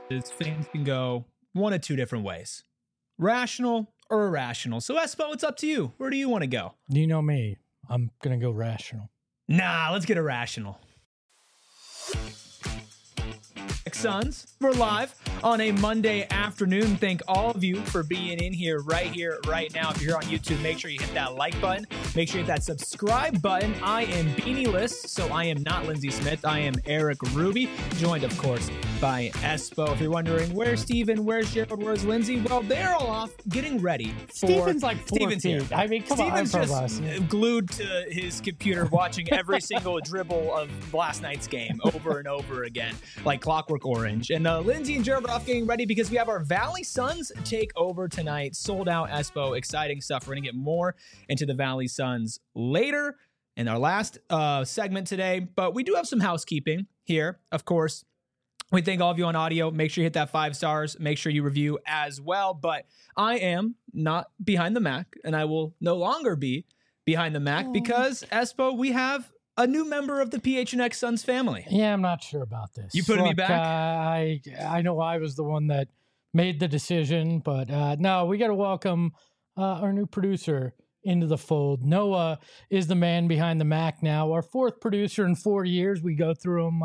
things can go one of two different ways. Rational or irrational. So, Espo, it's up to you. Where do you want to go? You know me. I'm going to go rational. Nah, let's get irrational. Suns, we're live on a Monday afternoon. Thank all of you for being in here, right now. If you're here on YouTube, make sure you hit that like button. Make sure you hit that subscribe button. I am Beanie List, so I am not Lindsey Smith. I am Eric Ruby, joined, of course, by Espo. If you're wondering, where's Steven, where's Gerald, where's Lindsey? Well, they're all off getting ready for... Steven's like 4 feet. Here. I mean, come on. Steven's just glued to his computer watching every single dribble of last night's game over and over again, like Clockwork Orange. And Lindsey and Gerald are off getting ready because we have our Valley Suns take over tonight. Sold out, Espo. Exciting stuff. We're going to get more into the Valley Suns later in our last segment today. But we do have some housekeeping here, of course. We thank all of you on audio. Make sure you hit that 5 stars. Make sure you review as well. But I am not behind the Mac, and I will no longer be behind the Mac because, Espo, we have a new member of the PHNX Suns family. Yeah, I'm not sure about this. You putting me back? I know I was the one that made the decision, but no, we got to welcome our new producer into the fold. Noah is the man behind the Mac now. Our 4th producer in 4 years. We go through them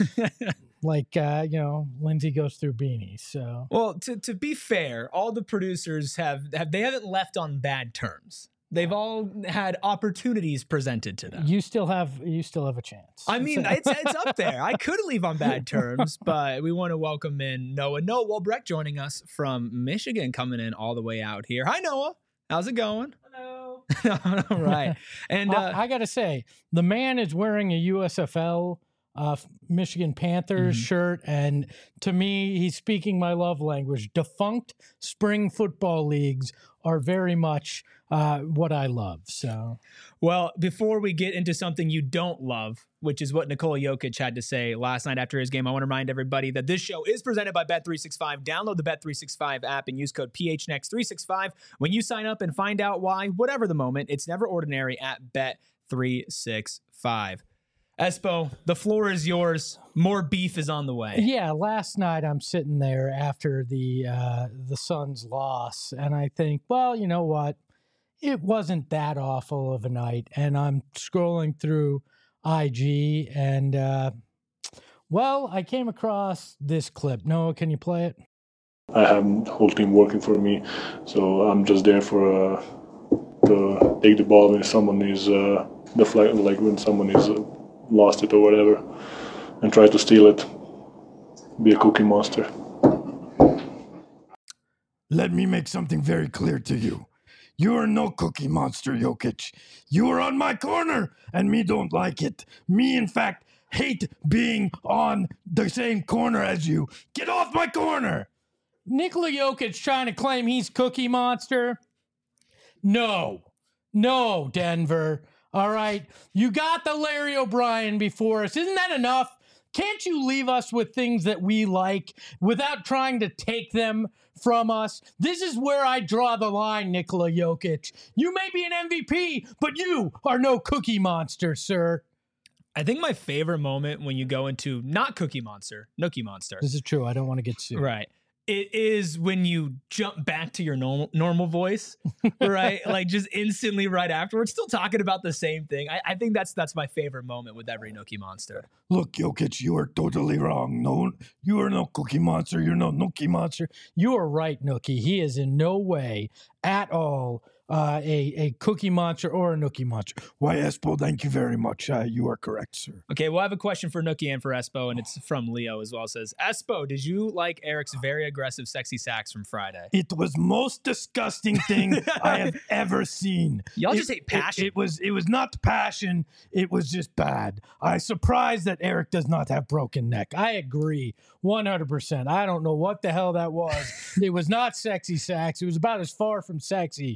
like, Lindsey goes through Beanie. So, well, to be fair, all the producers they haven't left on bad terms. They've all had opportunities presented to them. You still have a chance. I mean, it's up there. I could leave on bad terms, but we want to welcome in Noah Walbrecht joining us from Michigan, coming in all the way out here. Hi, Noah. How's it going? Hello. All right. And I got to say, the man is wearing a USFL Michigan Panthers shirt, and to me, he's speaking my love language. Defunct spring football leagues are very much what I love. So, well, before we get into something you don't love, which is what Nikola Jokic had to say last night after his game, I want to remind everybody that this show is presented by Bet365. Download the Bet365 app and use code PHNX365 when you sign up and find out why, whatever the moment, it's never ordinary at Bet365. Espo, the floor is yours. More beef is on the way. Yeah, last night I'm sitting there after the Suns' loss, and I think, well, you know what? It wasn't that awful of a night. And I'm scrolling through IG, and, I came across this clip. Noah, can you play it? I have the whole team working for me, so I'm just there for to take the ball when someone is when someone is lost it or whatever, and try to steal it. Be a cookie monster. Let me make something very clear to you. You are no cookie monster, Jokic. You are on my corner, and me don't like it. Me, in fact, hate being on the same corner as you. Get off my corner! Nikola Jokic trying to claim he's cookie monster? No, Denver. All right, you got the Larry O'Brien before us. Isn't that enough? Can't you leave us with things that we like without trying to take them from us? This is where I draw the line, Nikola Jokic. You may be an MVP, but you are no cookie monster, sir. I think my favorite moment when you go into not Cookie Monster, Nookie Monster. This is true. I don't want to get sued. Right. It is when you jump back to your normal voice, right? Like just instantly right afterwards, still talking about the same thing. I think that's my favorite moment with every Nookie Monster. Look, Jokic, you are totally wrong. No, you are no cookie monster. You're no Nookie monster. You are right, Nookie. He is in no way at all a cookie monster or a Nookie monster. Why, Espo, thank you very much. You are correct, sir. Okay, well, I have a question for Nookie and for Espo, and it's from Leo as well. It says, Espo, did you like Eric's very aggressive sexy sax from Friday? It was most disgusting thing I have ever seen. Y'all just hate passion. It was not passion. It was just bad. I'm surprised that Eric does not have broken neck. I agree 100%. I don't know what the hell that was. It was not sexy sax. It was about as far from sexy as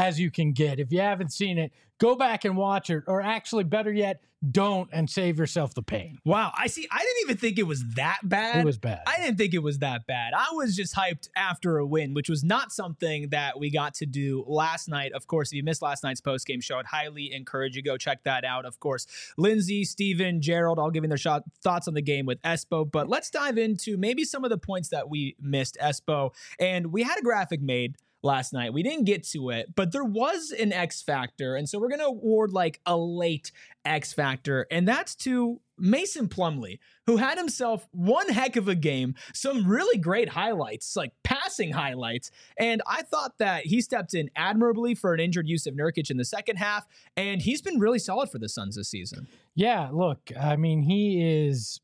as you can get. If you haven't seen it, go back and watch it, or actually better yet, don't, and save yourself the pain. Wow. I didn't even think it was that bad. It was bad. I didn't think it was that bad. I was just hyped after a win, which was not something that we got to do last night. Of course, if you missed last night's post-game show, I'd highly encourage you go check that out. Of course, Lindsay, Steven, Gerald, all giving their thoughts on the game with Espo. But let's dive into maybe some of the points that we missed, Espo. And we had a graphic made last night. We didn't get to it, but there was an X factor. And so we're going to award like a late X factor. And that's to Mason Plumlee, who had himself one heck of a game, some really great highlights, like passing highlights. And I thought that he stepped in admirably for an injured Jusuf Nurkic in the second half. And he's been really solid for the Suns this season. Yeah, look, I mean, he is,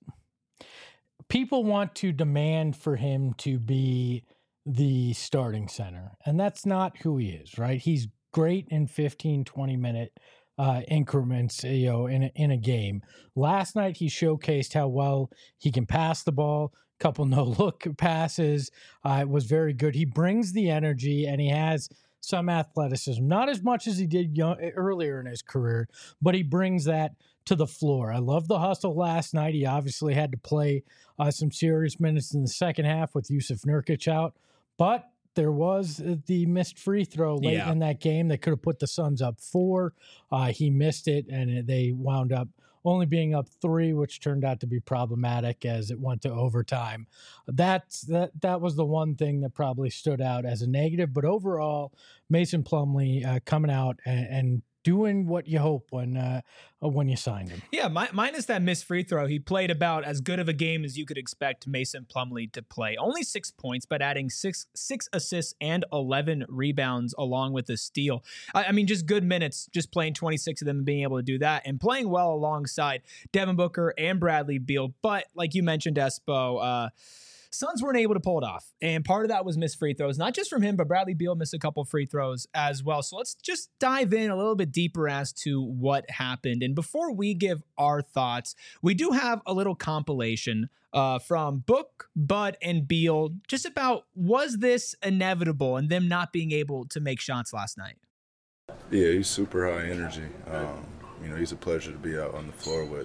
people want to demand for him to be the starting center, and that's not who he is, right? He's great in 15, 20-minute increments, in a game. Last night, he showcased how well he can pass the ball. Couple no-look passes. It was very good. He brings the energy, and he has some athleticism. Not as much as he did earlier in his career, but he brings that to the floor. I love the hustle last night. He obviously had to play some serious minutes in the second half with Jusuf Nurkic out, but there was the missed free throw late in that game that could have put the Suns up 4. He missed it, and they wound up only being up 3, which turned out to be problematic as it went to overtime. That was the one thing that probably stood out as a negative. But overall, Mason Plumlee coming out and doing what you hope when you signed him. Yeah, minus that missed free throw, he played about as good of a game as you could expect Mason Plumlee to play. Only 6 points, but adding six assists and 11 rebounds along with a steal. I mean, just good minutes, just playing 26 of them and being able to do that, and playing well alongside Devin Booker and Bradley Beal. But like you mentioned, Espo, Suns weren't able to pull it off. And part of that was missed free throws, not just from him, but Bradley Beal missed a couple free throws as well. So let's just dive in a little bit deeper as to what happened. And before we give our thoughts, we do have a little compilation from Book, Bud, and Beal just about, was this inevitable and them not being able to make shots last night? Yeah, he's super high energy. He's a pleasure to be out on the floor with.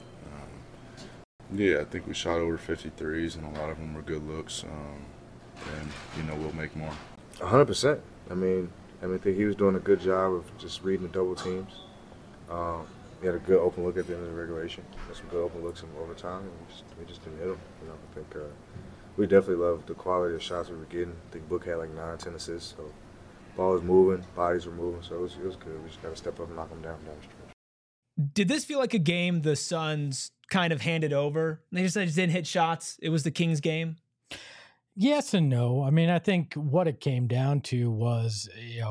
Yeah, I think we shot over 53s, and a lot of them were good looks. We'll make more. 100%. I think he was doing a good job of just reading the double teams. He had a good open look at the end of the regulation. Had some good open looks in overtime, and we just didn't hit him. I think we definitely loved the quality of shots we were getting. I think Book had like 9, 10 assists, so ball was moving, bodies were moving, so it was good. We just got to step up and knock them down the stretch. Did this feel like a game the Suns kind of handed over? They just didn't hit shots. It was the Kings game. Yes and no. I mean, I think what it came down to was,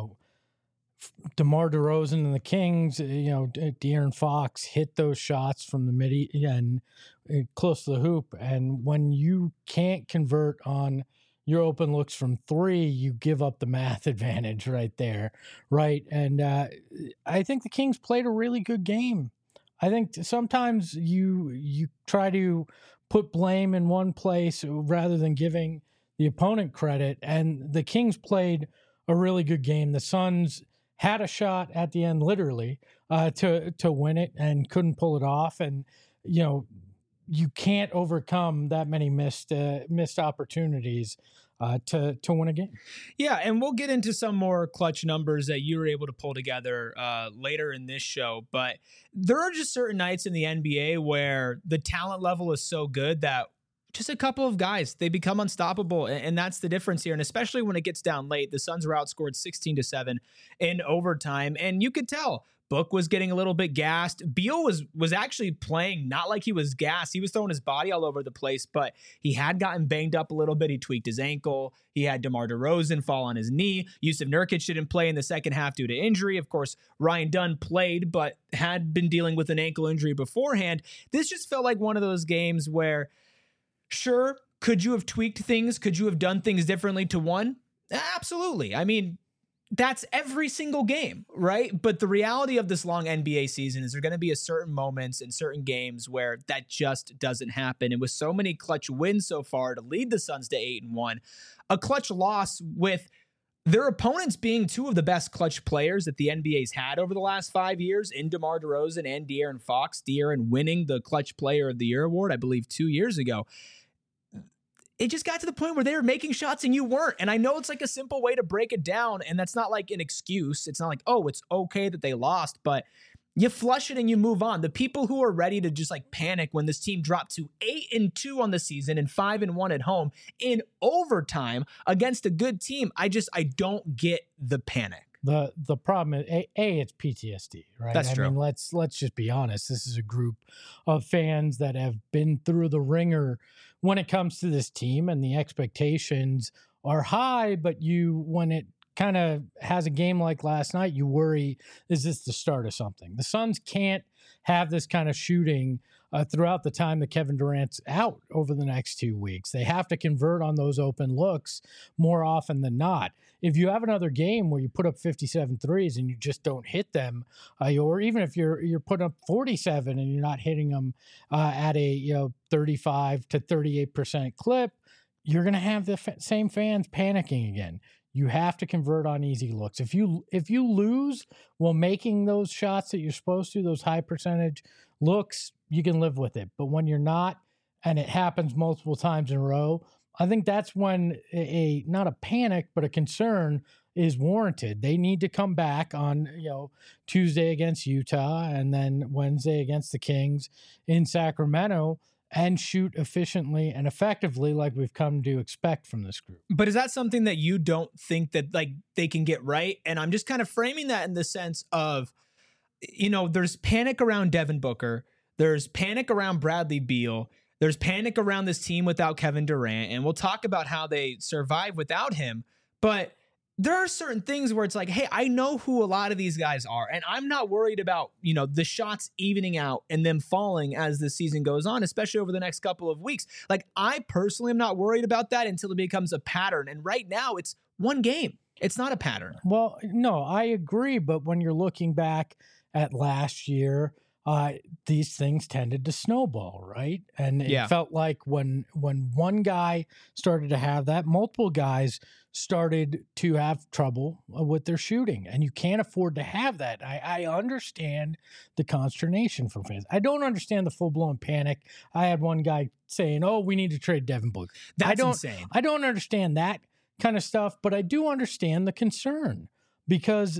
DeMar DeRozan and the Kings, De'Aaron Fox hit those shots from the mid and close to the hoop. And when you can't convert on your open looks from 3, you give up the math advantage right there, right? And I think the Kings played a really good game. I think sometimes you try to put blame in one place rather than giving the opponent credit, and the Kings played a really good game. The Suns had a shot at the end, literally, to win it and couldn't pull it off. And, you can't overcome that many missed opportunities to win a game. Yeah, and we'll get into some more clutch numbers that you were able to pull together later in this show. But there are just certain nights in the NBA where the talent level is so good that just a couple of guys, they become unstoppable. And that's the difference here. And especially when it gets down late, the Suns were outscored 16-7 in overtime. And you could tell Book was getting a little bit gassed. Beal was actually playing not like he was gassed. He was throwing his body all over the place, but he had gotten banged up a little bit. He tweaked his ankle. He had DeMar DeRozan fall on his knee. Jusuf Nurkic didn't play in the second half due to injury. Of course, Ryan Dunn played, but had been dealing with an ankle injury beforehand. This just felt like one of those games where, sure, could you have tweaked things? Could you have done things differently to win? Absolutely. I mean, that's every single game, right? But the reality of this long NBA season is there going to be a certain moments in certain games where that just doesn't happen. And with so many clutch wins so far to lead the Suns to 8-1, a clutch loss with their opponents being two of the best clutch players that the NBA's had over the last 5 years in DeMar DeRozan and De'Aaron Fox. De'Aaron winning the Clutch Player of the Year award, I believe 2 years ago. It just got to the point where they were making shots and you weren't. And I know it's like a simple way to break it down, and that's not like an excuse. It's not like, oh, it's okay that they lost, but you flush it and you move on. The people who are ready to just like panic when this team dropped to 8-2 on the season and 5-1 at home in overtime against a good team, I don't get the panic. The problem is it's PTSD, right? That's true. I mean, let's just be honest. This is a group of fans that have been through the ringer when it comes to this team, and the expectations are high. But when it kind of has a game like last night, you worry, is this the start of something? The Suns can't have this kind of shooting throughout the time that Kevin Durant's out over the next 2 weeks. They have to convert on those open looks more often than not. If you have another game where you put up 57 threes and you just don't hit them, or even if you're putting up 47 and you're not hitting them at a 35 to 38% clip, you're going to have the same fans panicking again. You have to convert on easy looks. If you lose while making those shots that you're supposed to, those high percentage looks, you can live with it. But when you're not, and it happens multiple times in a row, I think that's when not a panic, but a concern is warranted. They need to come back on Tuesday against Utah and then Wednesday against the Kings in Sacramento and shoot efficiently and effectively like we've come to expect from this group. But is that something that you don't think that like they can get right? And I'm just kind of framing that in the sense of, there's panic around Devin Booker. There's panic around Bradley Beal. There's panic around this team without Kevin Durant. And we'll talk about how they survive without him. But there are certain things where it's like, hey, I know who a lot of these guys are, and I'm not worried about, the shots evening out and them falling as the season goes on, especially over the next couple of weeks. Like, I personally am not worried about that until it becomes a pattern. And right now it's one game. It's not a pattern. Well, no, I agree. But when you're looking back at last year, these things tended to snowball, right? And it felt like when one guy started to have that, multiple guys started to have trouble with their shooting. And you can't afford to have that. I understand the consternation from fans. I don't understand the full-blown panic. I had one guy saying, oh, we need to trade Devin Booker. That's insane. I don't understand that kind of stuff, but I do understand the concern because,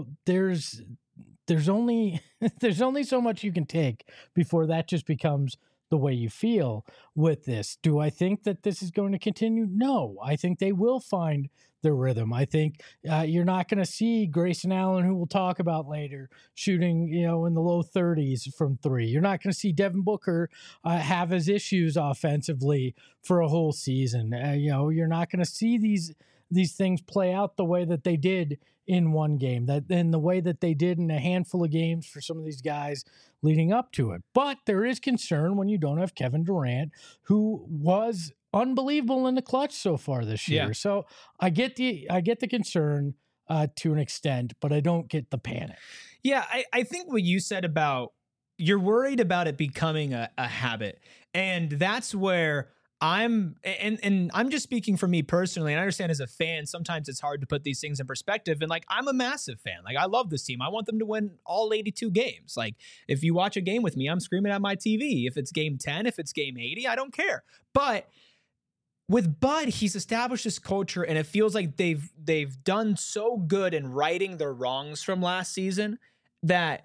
there's only so much you can take before that just becomes the way you feel with this. Do I think that this is going to continue? No, I think they will find their rhythm. I think you're not going to see Grayson Allen, who we'll talk about later, shooting, in the low 30s from three. You're not going to see Devin Booker have his issues offensively for a whole season. You're not going to see these things play out the way that they did in one game, that in the way that they did in a handful of games for some of these guys leading up to it. But there is concern when you don't have Kevin Durant, who was unbelievable in the clutch so far this year. Yeah. So I get the concern to an extent, but I don't get the panic. Yeah, I think what you said about you're worried about it becoming a habit, and that's where I'm just speaking for me personally, and I understand as a fan, sometimes it's hard to put these things in perspective. And like, I'm a massive fan. Like, I love this team. I want them to win all 82 games. Like, if you watch a game with me, I'm screaming at my TV. If it's game 10, if it's game 80, I don't care. But with Bud, he's established this culture, and it feels like they've done so good in righting their wrongs from last season that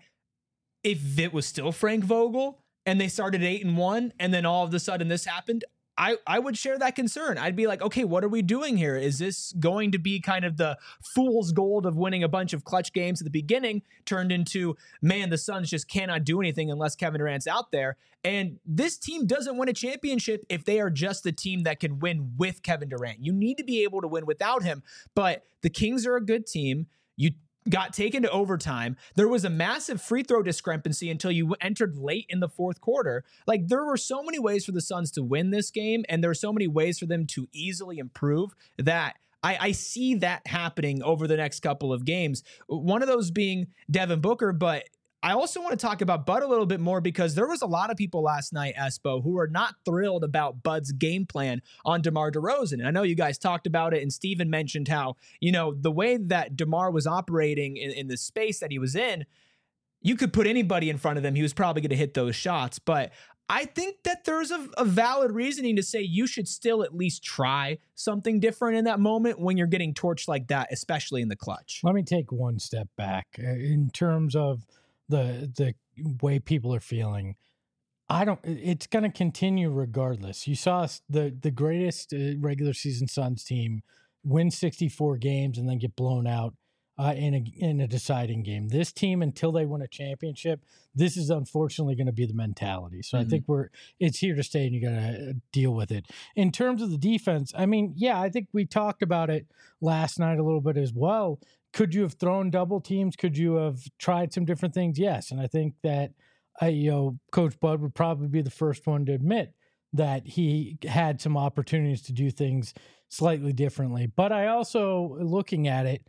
if it was still Frank Vogel and they started 8-1, and then all of a sudden this happened, I would share that concern. I'd be like, okay, what are we doing here? Is this going to be kind of the fool's gold of winning a bunch of clutch games at the beginning turned into, man, the Suns just cannot do anything unless Kevin Durant's out there? And this team doesn't win a championship if they are just the team that can win with Kevin Durant. You need to be able to win without him. But the Kings are a good team. You got taken to overtime. There was a massive free throw discrepancy until you entered late in the fourth quarter. Like, there were so many ways for the Suns to win this game, and there are so many ways for them to easily improve that I see that happening over the next couple of games. One of those being Devin Booker, but I also want to talk about Bud a little bit more because there was a lot of people last night, Espo, who were not thrilled about Bud's game plan on DeMar DeRozan. And I know you guys talked about it, and Steven mentioned how, the way that DeMar was operating in the space that he was in, you could put anybody in front of him. He was probably going to hit those shots. But I think that there's a valid reasoning to say you should still at least try something different in that moment when you're getting torched like that, especially in the clutch. Let me take one step back in terms of the way people are feeling. It's going to continue regardless. You saw the greatest regular season Suns team win 64 games and then get blown out in a deciding game. This team, until they win a championship, this is unfortunately going to be the mentality. So I think it's here to stay, and you got to deal with it. In terms of the defense, I think we talked about it last night a little bit as well. Could you have thrown double teams? Could you have tried some different things? Yes. And I think that, Coach Bud would probably be the first one to admit that he had some opportunities to do things slightly differently. But I also, looking at it,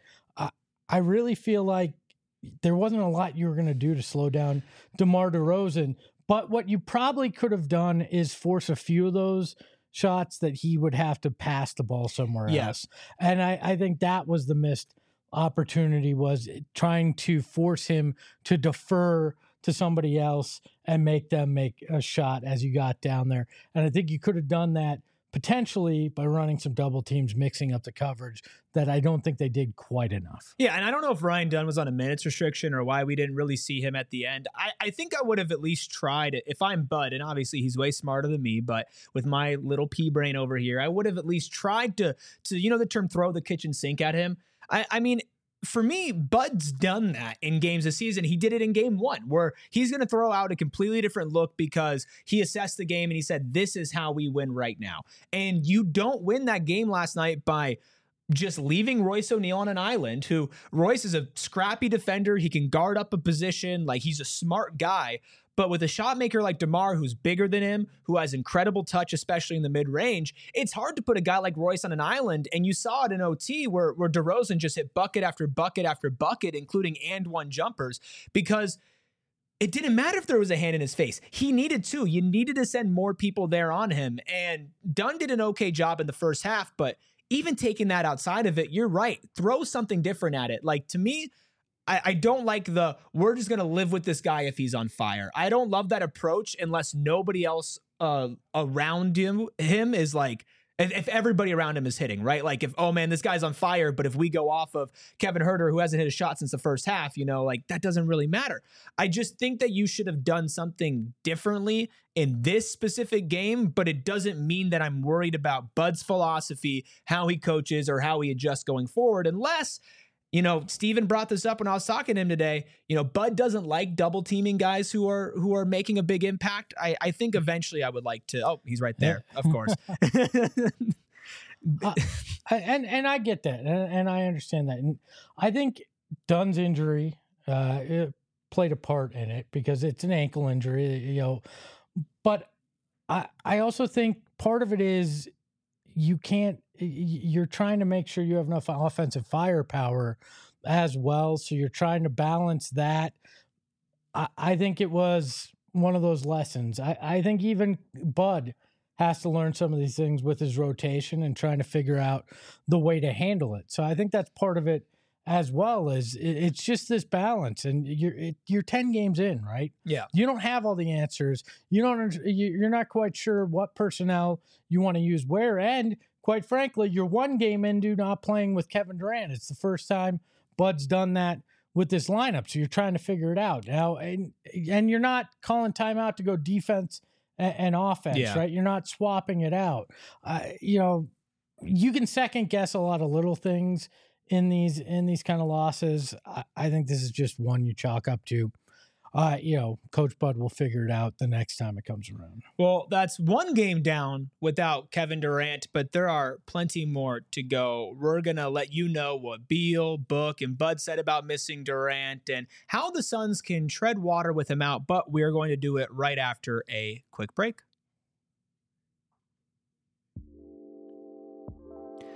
I really feel like there wasn't a lot you were going to do to slow down DeMar DeRozan. But what you probably could have done is force a few of those shots that he would have to pass the ball somewhere else. And I think that was the missed opportunity, was trying to force him to defer to somebody else and make them make a shot as you got down there. And I think you could have done that potentially by running some double teams, mixing up the coverage, that I don't think they did quite enough. Yeah, and I don't know if Ryan Dunn was on a minutes restriction or why we didn't really see him at the end. I think I would have at least tried it. If I'm Bud, and obviously he's way smarter than me, but with my little pea brain over here, I would have at least tried to the term throw the kitchen sink at him. I mean, for me, Bud's done that in games this season. He did it in game 1, where he's going to throw out a completely different look because he assessed the game and he said, this is how we win right now. And you don't win that game last night by just leaving Royce O'Neal on an island, who Royce is a scrappy defender. He can guard up a position. Like, he's a smart guy. But with a shot maker like DeMar, who's bigger than him, who has incredible touch, especially in the mid-range, it's hard to put a guy like Royce on an island. And you saw it in OT where DeRozan just hit bucket after bucket after bucket, including and one jumpers, because it didn't matter if there was a hand in his face. He needed to. You needed to send more people there on him. And Dunn did an okay job in the first half, but even taking that outside of it, you're right. Throw something different at it. Like, to me, I don't like we're just going to live with this guy if he's on fire. I don't love that approach unless nobody else around him is like, if everybody around him is hitting, right? Like, if, oh man, this guy's on fire, but if we go off of Kevin Huerter, who hasn't hit a shot since the first half, like, that doesn't really matter. I just think that you should have done something differently in this specific game, but it doesn't mean that I'm worried about Bud's philosophy, how he coaches, or how he adjusts going forward, unless, Steven brought this up when I was talking to him today. Bud doesn't like double teaming guys who are making a big impact. I think eventually I would like to. Oh, he's right there, of course. And I get that, and I understand that, and I think Dunn's injury it played a part in it because it's an ankle injury, But I also think part of it is you're trying to make sure you have enough offensive firepower as well. So you're trying to balance that. I think it was one of those lessons. I think even Bud has to learn some of these things with his rotation and trying to figure out the way to handle it. So I think that's part of it as well. As it's just this balance, and you're 10 games in, right? Yeah. You don't have all the answers. You're not quite sure what personnel you want to use where, and quite frankly, you're one game into not playing with Kevin Durant. It's the first time Bud's done that with this lineup, so you're trying to figure it out now, and you're not calling timeout to go defense and offense, right? You're not swapping it out. You can second guess a lot of little things in these kind of losses. I think this is just one you chalk up to. Coach Bud will figure it out the next time it comes around. Well, that's one game down without Kevin Durant, but there are plenty more to go. We're going to let you know what Beal, Book, and Bud said about missing Durant and how the Suns can tread water with him out, but we're going to do it right after a quick break.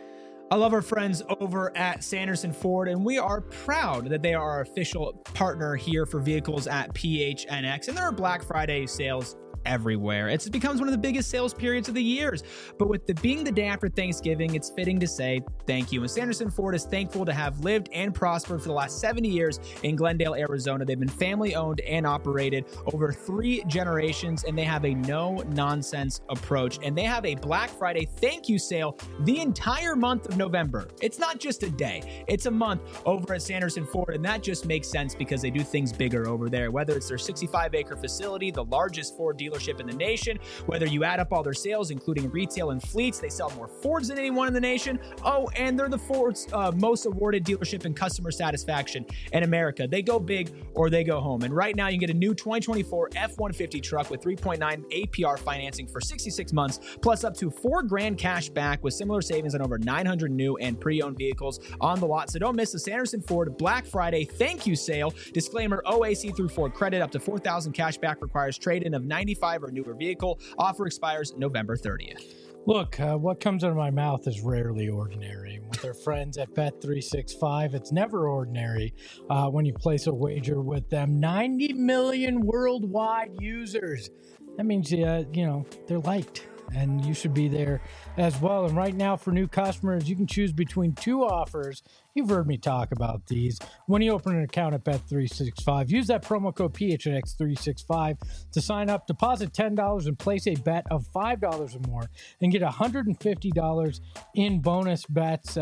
I love our friends over at Sanderson Ford, and we are proud that they are our official partner here for vehicles at PHNX. And there are Black Friday sales everywhere. It becomes one of the biggest sales periods of the years. But with it being the day after Thanksgiving, it's fitting to say thank you. And Sanderson Ford is thankful to have lived and prospered for the last 70 years in Glendale, Arizona. They've been family owned and operated over 3 generations, and they have a no-nonsense approach. And they have a Black Friday thank you sale the entire month of November. It's not just a day, it's a month over at Sanderson Ford, and that just makes sense because they do things bigger over there. Whether it's their 65-acre facility, the largest Ford dealership in the nation, whether you add up all their sales, including retail and fleets, they sell more Fords than anyone in the nation. Oh, and they're the Ford's most awarded dealership in customer satisfaction in America. They go big or they go home. And right now you can get a new 2024 F-150 truck with 3.9 APR financing for 66 months, plus up to $4,000 cash back with similar savings on over 900 new and pre-owned vehicles on the lot. So don't miss the Sanderson Ford Black Friday thank you sale. Disclaimer, OAC through Ford credit up to $4,000 cash back requires trade-in of 95 or newer vehicle. Offer expires November 30th. Look, what comes out of my mouth is rarely ordinary. With our friends at Bet365, it's never ordinary when you place a wager with them. 90 million worldwide users. That means, they're liked, and you should be there as well. And right now, for new customers, you can choose between 2 offers. You've heard me talk about these. When you open an account at Bet365, use that promo code PHNX365 to sign up, deposit $10 and place a bet of $5 or more and get $150 in bonus bets.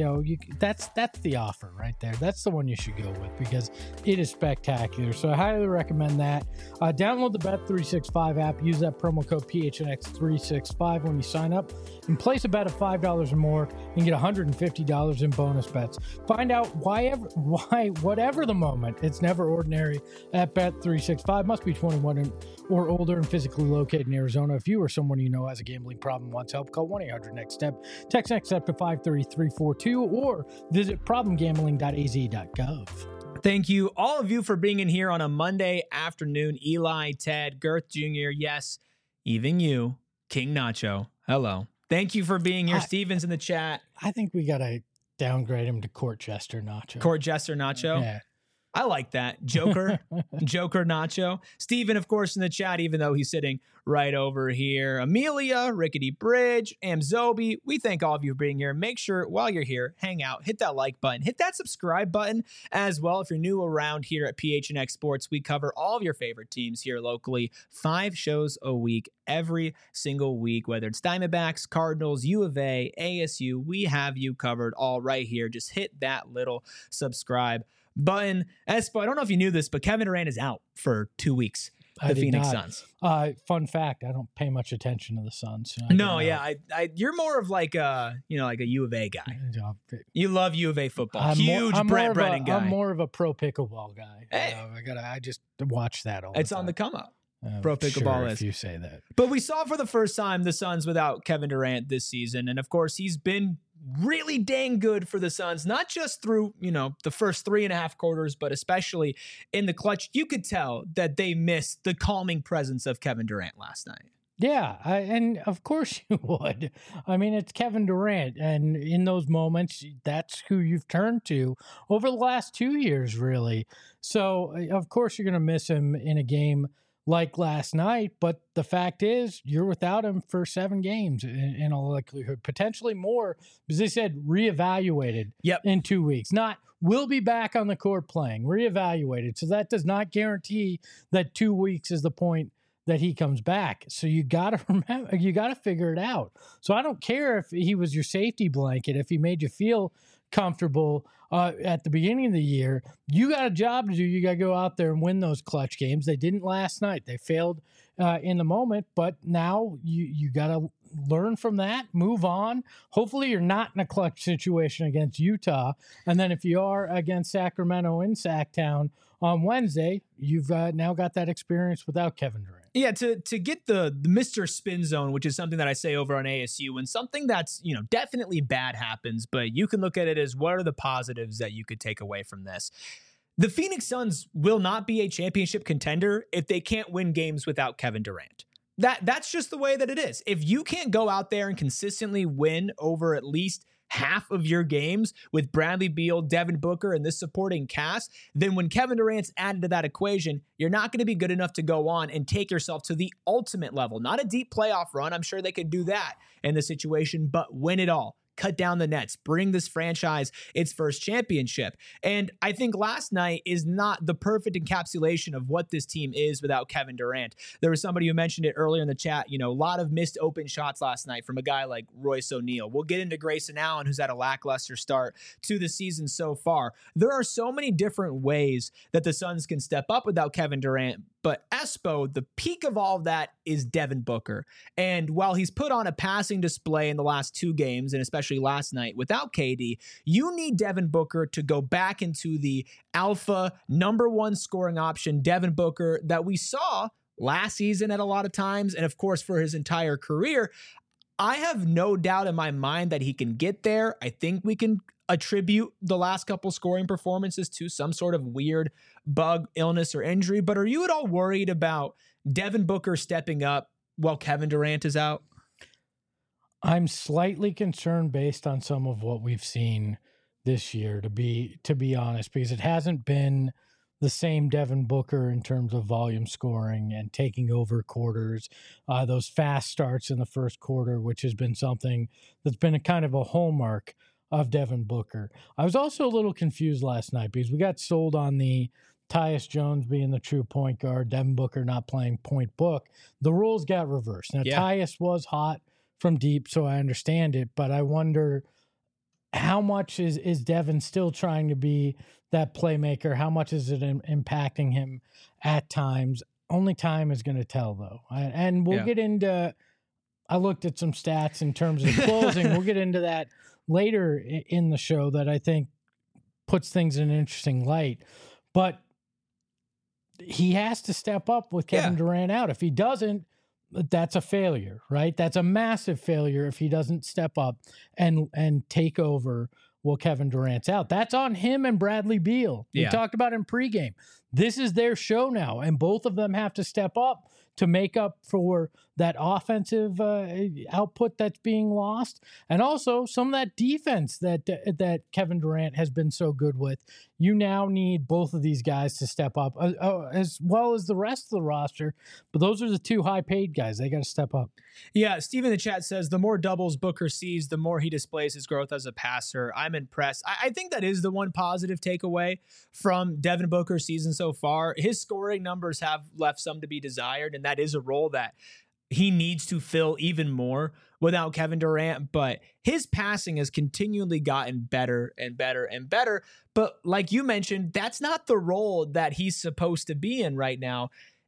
That's the offer right there. That's the one you should go with because it is spectacular. So I highly recommend that. Download the Bet365 app, use that promo code PHNX365 when you sign up and place a bet of $5 or more and get $150 in bonus bets. Find out why, whatever the moment, it's never ordinary at Bet365. Must be 21 or older and physically located in Arizona. If you or someone you know has a gambling problem and wants help, call 1-800-NEXT-STEP. Text NEXT STEP to 53342 or visit problemgambling.az.gov. Thank you, all of you, for being in here on a Monday afternoon. Eli, Ted, Girth Jr., yes, even you, King Nacho. Hello. Thank you for being here. Steven's in the chat. I think we got to downgrade him to Court Jester Nacho. Court Jester Nacho? Yeah. I like that. Joker. Joker Nacho. Steven, of course, in the chat, even though he's sitting right over here. Amelia, Rickety Bridge, Amzobi, we thank all of you for being here. Make sure while you're here, hang out, hit that like button, hit that subscribe button as well. If you're new around here at PHNX Sports, we cover all of your favorite teams here locally, 5 shows a week, every single week, whether it's Diamondbacks, Cardinals, U of A, ASU, we have you covered all right here. Just hit that little subscribe button. Espo, I don't know if you knew this, but Kevin Durant is out for 2 weeks. The Phoenix Suns. Fun fact: I don't pay much attention to the Suns. You're more of like a U of A guy. You love U of A football. I'm Brent Brennan guy. I'm more of a pro pickleball guy. Hey. I just watch that all the time. It's on the come up. Pro pickleball is. If you say that. But we saw for the first time the Suns without Kevin Durant this season, and of course he's been really dang good for the Suns, not just through, the first 3.5 quarters, but especially in the clutch. You could tell that they missed the calming presence of Kevin Durant last night. Yeah, and of course you would. I mean, it's Kevin Durant, and in those moments, that's who you've turned to over the last 2 years, really. So, of course, you're going to miss him in a game like last night, but the fact is you're without him for 7 games in all likelihood, potentially more, because they said reevaluated in 2 weeks. Not will be back on the court playing, reevaluated. So that does not guarantee that 2 weeks is the point that he comes back. So you got to remember, you got to figure it out. So I don't care if he was your safety blanket, if he made you feel comfortable at the beginning of the year. You got a job to do. You got to go out there and win those clutch games. They didn't last night. They failed in the moment, but now you got to learn from that, move on. Hopefully you're not in a clutch situation against Utah. And then if you are against Sacramento in Sacktown on Wednesday, you've now got that experience without Kevin Durant. Yeah, to get the Mr. Spin Zone, which is something that I say over on ASU, when something that's, definitely bad happens, but you can look at it as what are the positives that you could take away from this. The Phoenix Suns will not be a championship contender if they can't win games without Kevin Durant. That's just the way that it is. If you can't go out there and consistently win over at least half of your games with Bradley Beal, Devin Booker, and this supporting cast, then when Kevin Durant's added to that equation, you're not going to be good enough to go on and take yourself to the ultimate level. Not a deep playoff run. I'm sure they could do that in the situation, but win it all. Cut down the nets, bring this franchise its first championship. And I think last night is not the perfect encapsulation of what this team is without Kevin Durant. There was somebody who mentioned it earlier in the chat, a lot of missed open shots last night from a guy like Royce O'Neal. We'll get into Grayson Allen, who's had a lackluster start to the season so far. There are so many different ways that the Suns can step up without Kevin Durant. But Espo, the peak of all of that is Devin Booker. And while he's put on a passing display in the last 2 games, and especially last night without KD, you need Devin Booker to go back into the alpha number 1 scoring option, Devin Booker, that we saw last season at a lot of times, and of course for his entire career. I have no doubt in my mind that he can get there. I think we can attribute the last couple scoring performances to some sort of weird bug, illness, or injury. But are you at all worried about Devin Booker stepping up while Kevin Durant is out? I'm slightly concerned based on some of what we've seen this year, to be honest, because it hasn't been the same Devin Booker in terms of volume scoring and taking over quarters, those fast starts in the first quarter, which has been something that's been a kind of a hallmark of Devin Booker. I was also a little confused last night because we got sold on the Tyus Jones being the true point guard, Devin Booker not playing point book. The roles got reversed. Now, Tyus was hot from deep, so I understand it, but I wonder how much is Devin still trying to be that playmaker? How much is it impacting him at times? Only time is going to tell, though. And we'll get into, I looked at some stats in terms of closing. We'll get into that later in the show that I think puts things in an interesting light. But he has to step up with Kevin Durant out. If he doesn't, that's a failure, right? That's a massive failure if he doesn't step up and take over while Kevin Durant's out. That's on him and Bradley Beal. We talked about in pregame. This is their show now, and both of them have to step up to make up for that offensive output that's being lost, and also some of that defense that Kevin Durant has been so good with. You now need both of these guys to step up, as well as the rest of the roster. But those are the 2 high-paid guys. They got to step up. Yeah, Steve in the chat says, the more doubles Booker sees, the more he displays his growth as a passer. I'm impressed. I think that is the one positive takeaway from Devin Booker's season so far. His scoring numbers have left some to be desired, and that is a role that he needs to fill even more without Kevin Durant. But his passing has continually gotten better and better and better. But like you mentioned, that's not the role that he's supposed to be in right now,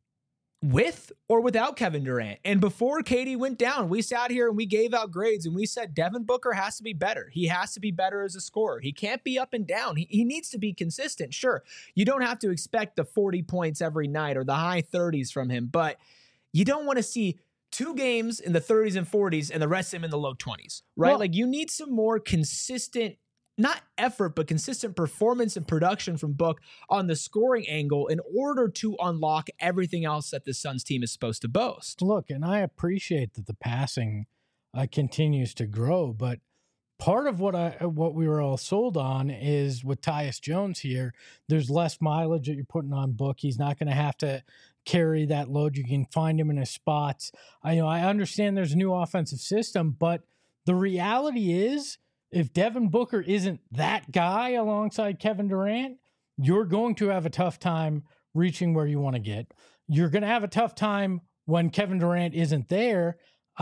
with or without Kevin Durant. And before KD went down, we sat here and we gave out grades and we said Devin Booker has to be better. He has to be better as a scorer. He can't be up and down. He needs to be consistent. Sure, you don't have to expect the 40 points every night or the high 30s from him, but you don't want to see 2 games in the 30s and 40s and the rest of them in the low 20s, right? Well, like, you need some more consistent, not effort, but consistent performance and production from Book on the scoring angle in order to unlock everything else that the Suns team is supposed to boast. Look, and I appreciate that the passing continues to grow, but part of what we were all sold on is with Tyus Jones here, there's less mileage that you're putting on Book. He's not going to have to carry that load. You can find him in his spots. I understand there's a new offensive system, but the reality is, if Devin Booker isn't that guy alongside Kevin Durant, you're going to have a tough time reaching where you want to get. You're going to have a tough time when Kevin Durant isn't there.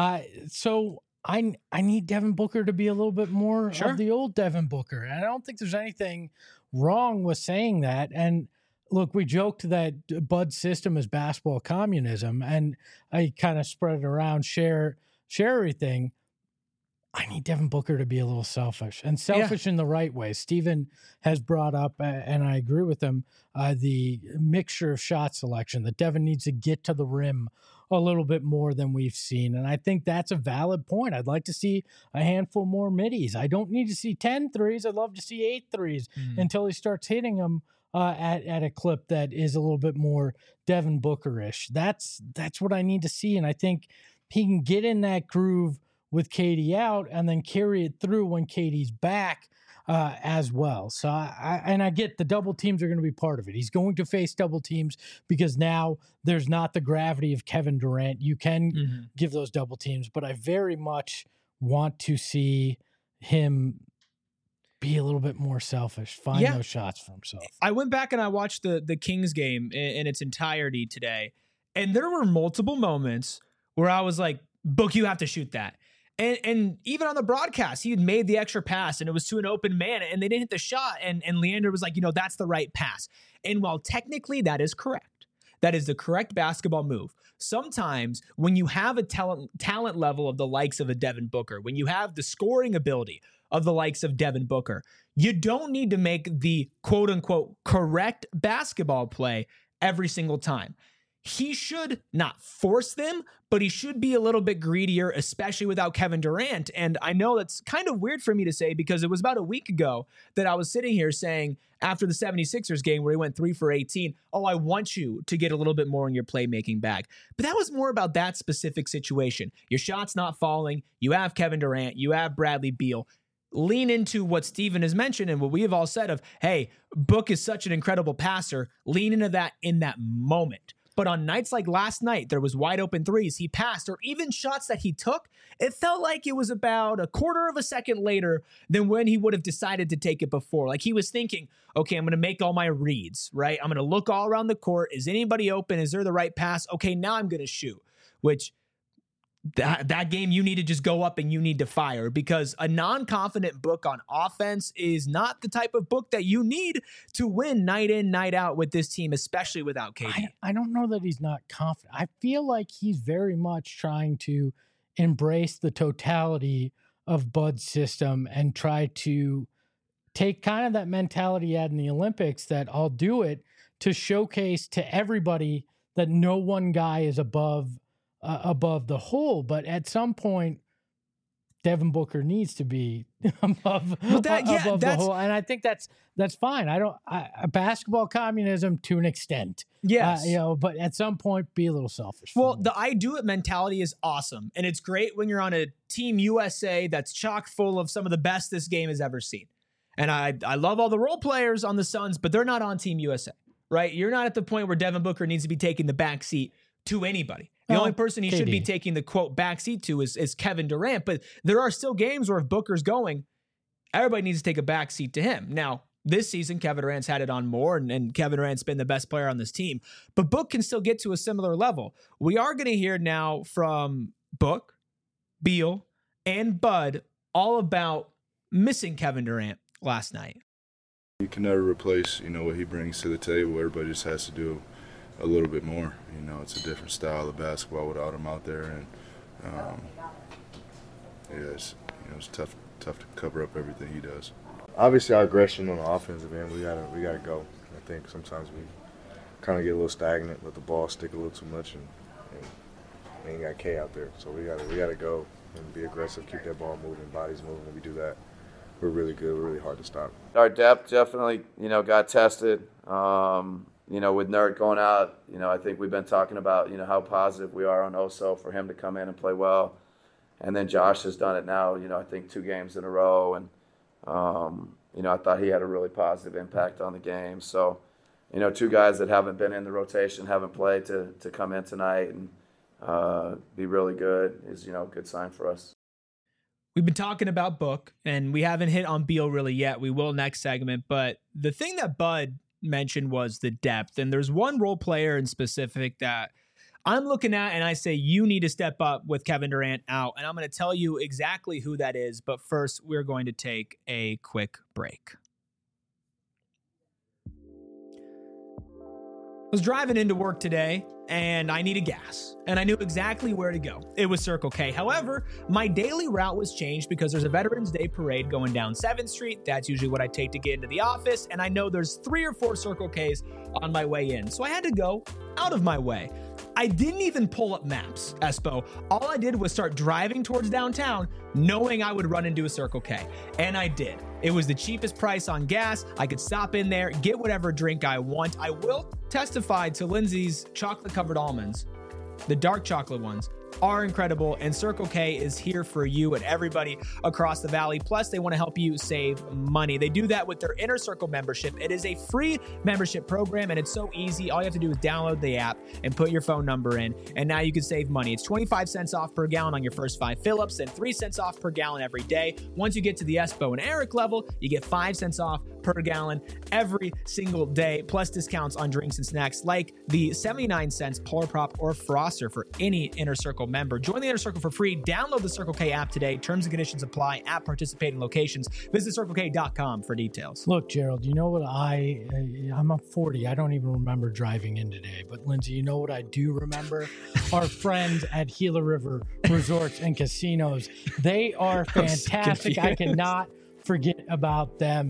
So I need Devin Booker to be a little bit more of the old Devin Booker. And I don't think there's anything wrong with saying that. And look, we joked that Bud's system is basketball communism, and I kind of spread it around, share everything. I need Devin Booker to be a little selfish, and selfish in the right way. Steven has brought up, and I agree with him, the mixture of shot selection, that Devin needs to get to the rim a little bit more than we've seen. And I think that's a valid point. I'd like to see a handful more middies. I don't need to see 10 threes. I'd love to see 8 threes until he starts hitting them at a clip that is a little bit more Devin Booker-ish. That's what I need to see. And I think he can get in that groove with KD out and then carry it through when KD's back as well. So I get the double teams are going to be part of it. He's going to face double teams because now there's not the gravity of Kevin Durant. You can give those double teams, but I very much want to see him be a little bit more selfish, find those shots for himself. I went back and I watched the Kings game in its entirety today, and there were multiple moments where I was like, Book, you have to shoot that. And even on the broadcast, he had made the extra pass and it was to an open man and they didn't hit the shot. And Leander was like, that's the right pass. And while technically that is correct, that is the correct basketball move. Sometimes when you have a talent level of the likes of a Devin Booker, when you have the scoring ability of the likes of Devin Booker, you don't need to make the quote unquote correct basketball play every single time. He should not force them, but he should be a little bit greedier, especially without Kevin Durant. And I know that's kind of weird for me to say because it was about a week ago that I was sitting here saying after the 76ers game where he went 3 for 18, I want you to get a little bit more in your playmaking bag. But that was more about that specific situation. Your shot's not falling. You have Kevin Durant. You have Bradley Beal. Lean into what Steven has mentioned and what we have all said of, hey, Book is such an incredible passer. Lean into that in that moment. But on nights like last night, there was wide open threes he passed, or even shots that he took. It felt like it was about a quarter of a second later than when he would have decided to take it before. Like he was thinking, okay, I'm going to make all my reads, right? I'm going to look all around the court. Is anybody open? Is there the right pass? Okay, now I'm going to shoot, which that game you need to just go up and you need to fire because a non-confident Book on offense is not the type of Book that you need to win night in, night out with this team, especially without KD. I don't know that he's not confident. I feel like he's very much trying to embrace the totality of Bud's system and try to take kind of that mentality he had in the Olympics that I'll do it to showcase to everybody that no one guy is above the whole, but at some point, Devin Booker needs to be above the whole, and I think that's fine. Basketball communism to an extent, yes, but at some point, be a little selfish. Well, the I do it mentality is awesome, and it's great when you're on a Team USA that's chock full of some of the best this game has ever seen. And I love all the role players on the Suns, but they're not on Team USA, right? You're not at the point where Devin Booker needs to be taking the back seat to anybody. The only person he should be taking the quote backseat to is Kevin Durant. But there are still games where if Booker's going, everybody needs to take a backseat to him. Now, this season, Kevin Durant's had it on more, and Kevin Durant's been the best player on this team. But Book can still get to a similar level. We are going to hear now from Book, Beal, and Bud all about missing Kevin Durant last night. You can never replace, what he brings to the table. Everybody just has to do a little bit more. It's a different style of basketball without him out there, and it's tough to cover up everything he does. Obviously, our aggression on the offensive end, we gotta go. I think sometimes we kind of get a little stagnant, let the ball stick a little too much, and we ain't got K out there. So we gotta go and be aggressive, keep that ball moving, bodies moving. When we do that, we're really good. We're really hard to stop. Our depth definitely, got tested. With Nurk going out, I think we've been talking about, how positive we are on Oso for him to come in and play well. And then Josh has done it now, I think 2 games in a row. And, I thought he had a really positive impact on the game. So, 2 guys that haven't been in the rotation, haven't played to come in tonight and be really good is, a good sign for us. We've been talking about Book, and we haven't hit on Beal really yet. We will next segment. But the thing that Bud mentioned was the depth, and there's one role player in specific that I'm looking at and I say you need to step up with Kevin Durant out, and I'm going to tell you exactly who that is, but first we're going to take a quick break. I was driving into work today and I needed gas, and I knew exactly where to go. It was Circle K. However, my daily route was changed because there's a Veterans Day parade going down 7th Street. That's usually what I take to get into the office, and I know there's 3 or 4 Circle Ks on my way in, so I had to go out of my way. I didn't even pull up maps, Espo. All I did was start driving towards downtown, knowing I would run into a Circle K, and I did. It was the cheapest price on gas. I could stop in there, get whatever drink I want. I will testify to Lindsay's chocolate-covered almonds. The dark chocolate ones are incredible, and Circle K is here for you and everybody across the valley. Plus, they want to help you save money. They do that with their Inner Circle membership. It is a free membership program, and it's so easy. All you have to do is download the app and put your phone number in, and now you can save money. It's 25 cents off per gallon on your first 5 fill-ups and 3 cents off per gallon every day. Once you get to the Espo and Eric level, you get 5 cents off per gallon every single day, plus discounts on drinks and snacks like the 79 cents Polar Prop or Froster for any Inner Circle member. Join the Inner Circle for free. Download the Circle K app today. Terms and conditions apply at participating locations. Visit CircleK.com for details. Look, Gerald, you know what I'm 40. I don't even remember driving in today. But Lindsay, you know what I do remember? Our friends at Gila River Resorts and Casinos. They are fantastic. I cannot forget about them.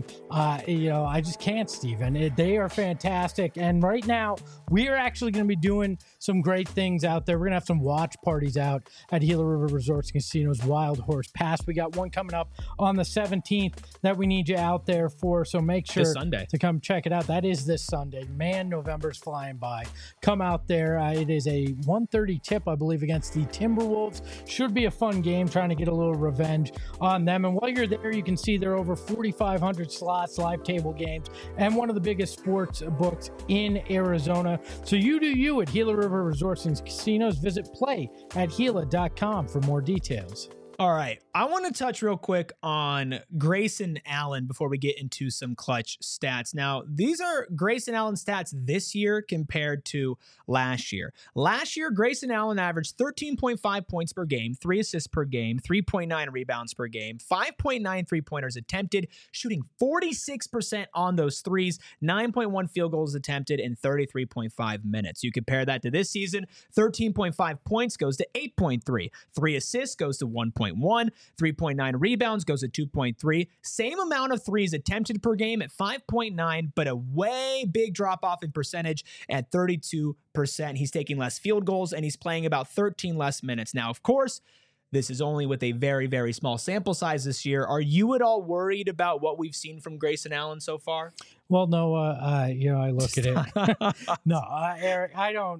I just can't, Steven. They are fantastic. And right now, we are actually going to be doing some great things out there. We're going to have some watch parties out at Gila River Resorts and Casinos Wild Horse Pass. We got one coming up on the 17th that we need you out there for. So make sure to come check it out. That is this Sunday. Man, November's flying by. Come out there. It is a 1:30 tip, I believe, against the Timberwolves. Should be a fun game, trying to get a little revenge on them. And while you're there, you can see there are over 4,500 slots, live table games, and one of the biggest sports books in Arizona. So you do you at Gila River Resorts and Casinos. Visit play@Gila.com for more details. All right. I want to touch real quick on Grayson Allen before we get into some clutch stats. Now, these are Grayson Allen stats this year compared to last year. Last year, Grayson Allen averaged 13.5 points per game, 3 assists per game, 3.9 rebounds per game, 5.9 three-pointers attempted, shooting 46% on those threes, 9.1 field goals attempted in 33.5 minutes. You compare that to this season, 13.5 points goes to 8.3, 3 assists goes to 1.1, 3.9 rebounds goes to 2.3, same amount of threes attempted per game at 5.9, but a way big drop off in percentage at 32%. He's taking less field goals and he's playing about 13 less minutes. Now, of course, this is only with a very, very small sample size this year. Are you at all worried about what we've seen from Grayson Allen so far? Well, no, I look at it. No, Eric, I don't.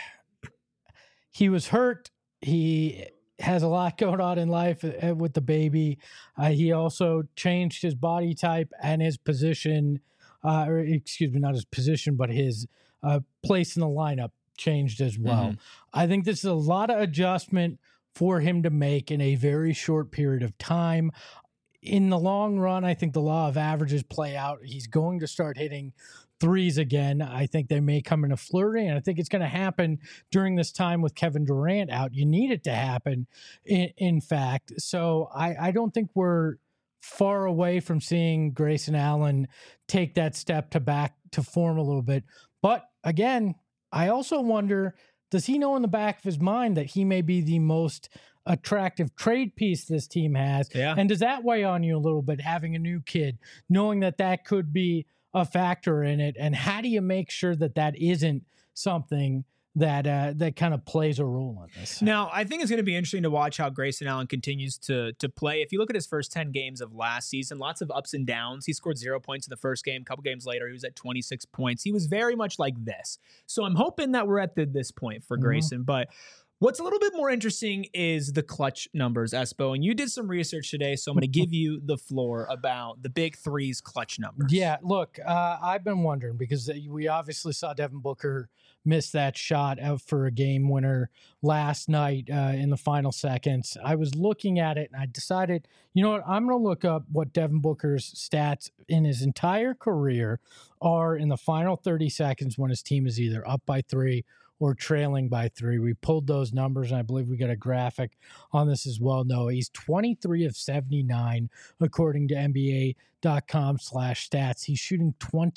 He was hurt. He has a lot going on in life with the baby. He also changed his body type and his position, not his position, but his place in the lineup changed as well. Mm-hmm. I think this is a lot of adjustment for him to make in a very short period of time. In the long run, I think the law of averages play out. He's going to start hitting threes again. I think they may come in a flurry, and I think it's going to happen during this time with Kevin Durant out. You need it to happen, in fact. So I don't think we're far away from seeing Grayson Allen take that step back to form a little bit. But again, I also wonder, does he know in the back of his mind that he may be the most attractive trade piece this team has? Yeah. And does that weigh on you a little bit, having a new kid, knowing that that could be a factor in it? And how do you make sure that that isn't something that kind of plays a role in this? Now, I think it's going to be interesting to watch how Grayson Allen continues to play. If you look at his first 10 games of last season, lots of ups and downs. He scored 0 points in the first game. A couple games later, he was at 26 points. He was very much like this. So I'm hoping that we're at this point for Grayson. But what's a little bit more interesting is the clutch numbers, Espo. And you did some research today, so I'm going to give you the floor about the big threes clutch numbers. Yeah, look, I've been wondering, because we obviously saw Devin Booker miss that shot out for a game winner last night in the final seconds. I was looking at it and I decided, you know what, I'm going to look up what Devin Booker's stats in his entire career are in the final 30 seconds when his team is either up by 3 or trailing by 3. We pulled those numbers, and I believe we got a graphic on this as well. No, he's 23 of 79, according to NBA.com/stats. He's shooting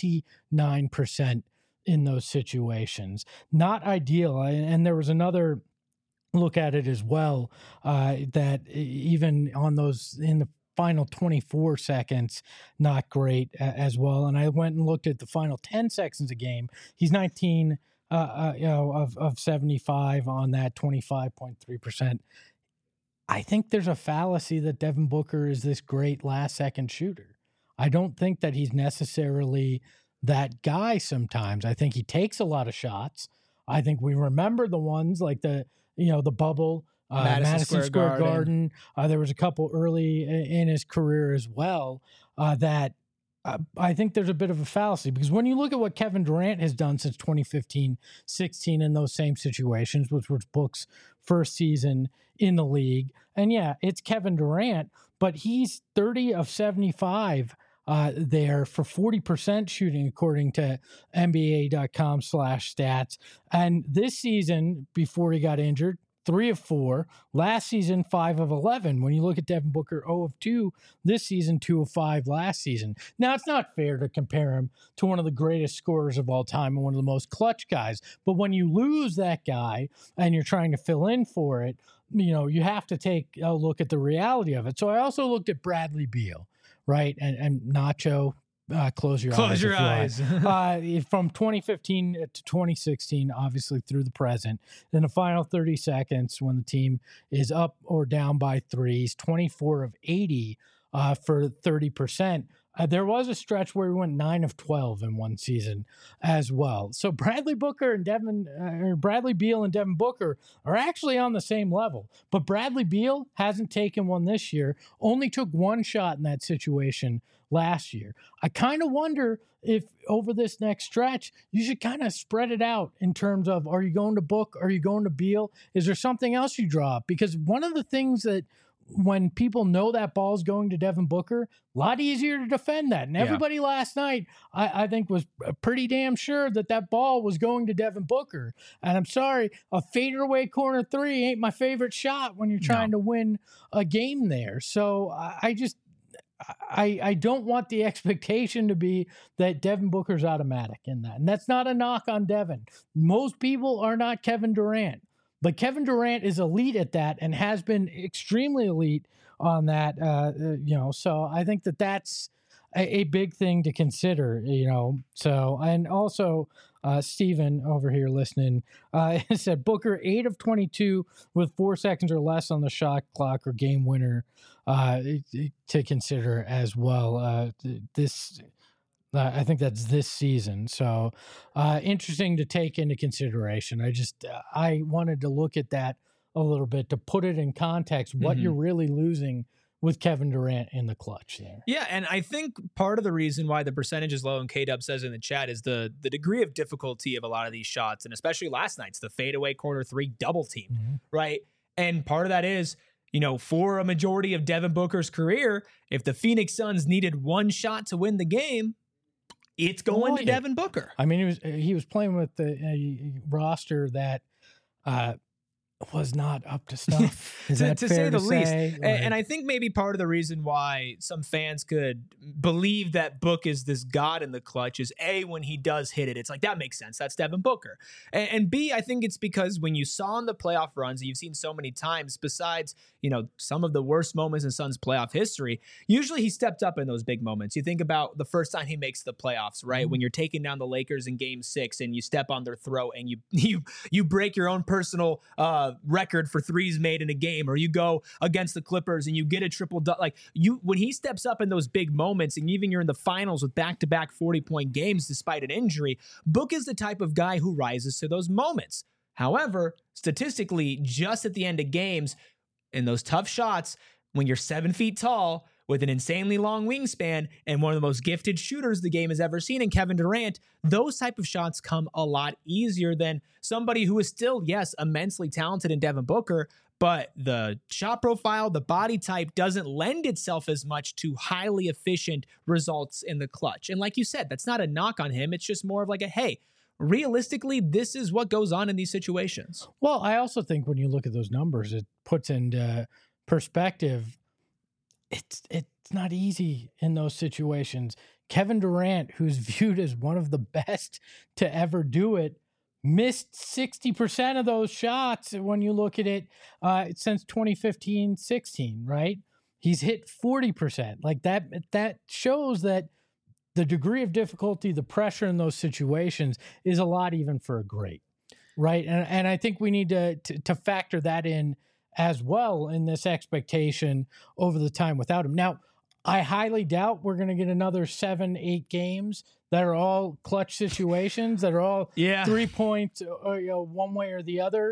29% in those situations. Not ideal. And there was another look at it as well, that even on those in the final 24 seconds, not great as well. And I went and looked at the final 10 seconds of game. He's 19 of 75 on that, 25.3%. I think there's a fallacy that Devin Booker is this great last second shooter. I don't think that he's necessarily that guy sometimes. I think he takes a lot of shots. I think we remember the ones like the bubble Madison Square Garden. There was a couple early in his career as well that I think there's a bit of a fallacy, because when you look at what Kevin Durant has done since 2015-16 in those same situations, which was Book's first season in the league, and yeah, it's Kevin Durant, but he's 30 of 75 there for 40% shooting, according to NBA.com/stats. And this season, before he got injured, 3 of 4. Last season, 5 of 11. When you look at Devin Booker, 0 of 2 this season, 2 of 5 last season. Now, it's not fair to compare him to one of the greatest scorers of all time and one of the most clutch guys. But when you lose that guy and you're trying to fill in for it, you have to take a look at the reality of it. So I also looked at Bradley Beal, right? And Nacho. Close your eyes. From 2015 to 2016, obviously through the present. In the final 30 seconds, when the team is up or down by threes, 24 of 80 for 30%. There was a stretch where we went 9 of 12 in one season as well. So Bradley Beal and Devin Booker are actually on the same level. But Bradley Beal hasn't taken one this year, only took one shot in that situation last year. I kind of wonder if over this next stretch, you should kind of spread it out in terms of, are you going to Book? Are you going to Beal? Is there something else you draw up? Because one of the things that when people know that ball's going to Devin Booker, a lot easier to defend that. And everybody last night, I think, was pretty damn sure that ball was going to Devin Booker. And I'm sorry, a fadeaway corner three ain't my favorite shot when you're trying to win a game there. So I don't want the expectation to be that Devin Booker's automatic in that. And that's not a knock on Devin. Most people are not Kevin Durant. But Kevin Durant is elite at that and has been extremely elite on that, so I think that's a big thing to consider, So, and also, Steven over here listening said Booker 8 of 22 with 4 seconds or less on the shot clock or game winner to consider as well. I think that's this season. So interesting to take into consideration. I wanted to look at that a little bit to put it in context, what you're really losing with Kevin Durant in the clutch there. Yeah, and I think part of the reason why the percentage is low, and K-Dub says in the chat, is the degree of difficulty of a lot of these shots, and especially last night's, the fadeaway corner three double team, right? And part of that is, for a majority of Devin Booker's career, if the Phoenix Suns needed one shot to win the game, it's going to Devin Booker. I mean, he was playing with a roster that was not up to snuff. Is that to fair say the least? Like, and I think maybe part of the reason why some fans could believe that Book is this god in the clutch is A, when he does hit it, it's like, that makes sense. That's Devin Booker. And B, I think it's because when you saw in the playoff runs, you've seen so many times, besides, some of the worst moments in Suns playoff history, usually he stepped up in those big moments. You think about the first time he makes the playoffs, right? When you're taking down the Lakers in Game 6 and you step on their throat and you break your own personal record for threes made in a game, or you go against the Clippers and you get a triple when he steps up in those big moments, and even you're in the finals with back-to-back 40-point games despite an injury, Book is the type of guy who rises to those moments. However, statistically, just at the end of games, in those tough shots, when you're 7 feet tall with an insanely long wingspan and one of the most gifted shooters the game has ever seen in Kevin Durant, those type of shots come a lot easier than somebody who is still, yes, immensely talented in Devin Booker, but the shot profile, the body type doesn't lend itself as much to highly efficient results in the clutch. And like you said, that's not a knock on him. It's just more of like hey, realistically, this is what goes on in these situations. Well, I also think when you look at those numbers, it puts into perspective, it's not easy in those situations. Kevin Durant, who's viewed as one of the best to ever do it, missed 60% of those shots when you look at it since 2015-16, right? He's hit 40%. Like that shows that the degree of difficulty, the pressure in those situations is a lot even for a great, right? And I think we need to factor that in as well in this expectation over the time without him. Now, I highly doubt we're going to get another 7-8 games that are all clutch situations, that are all 3 points, one way or the other.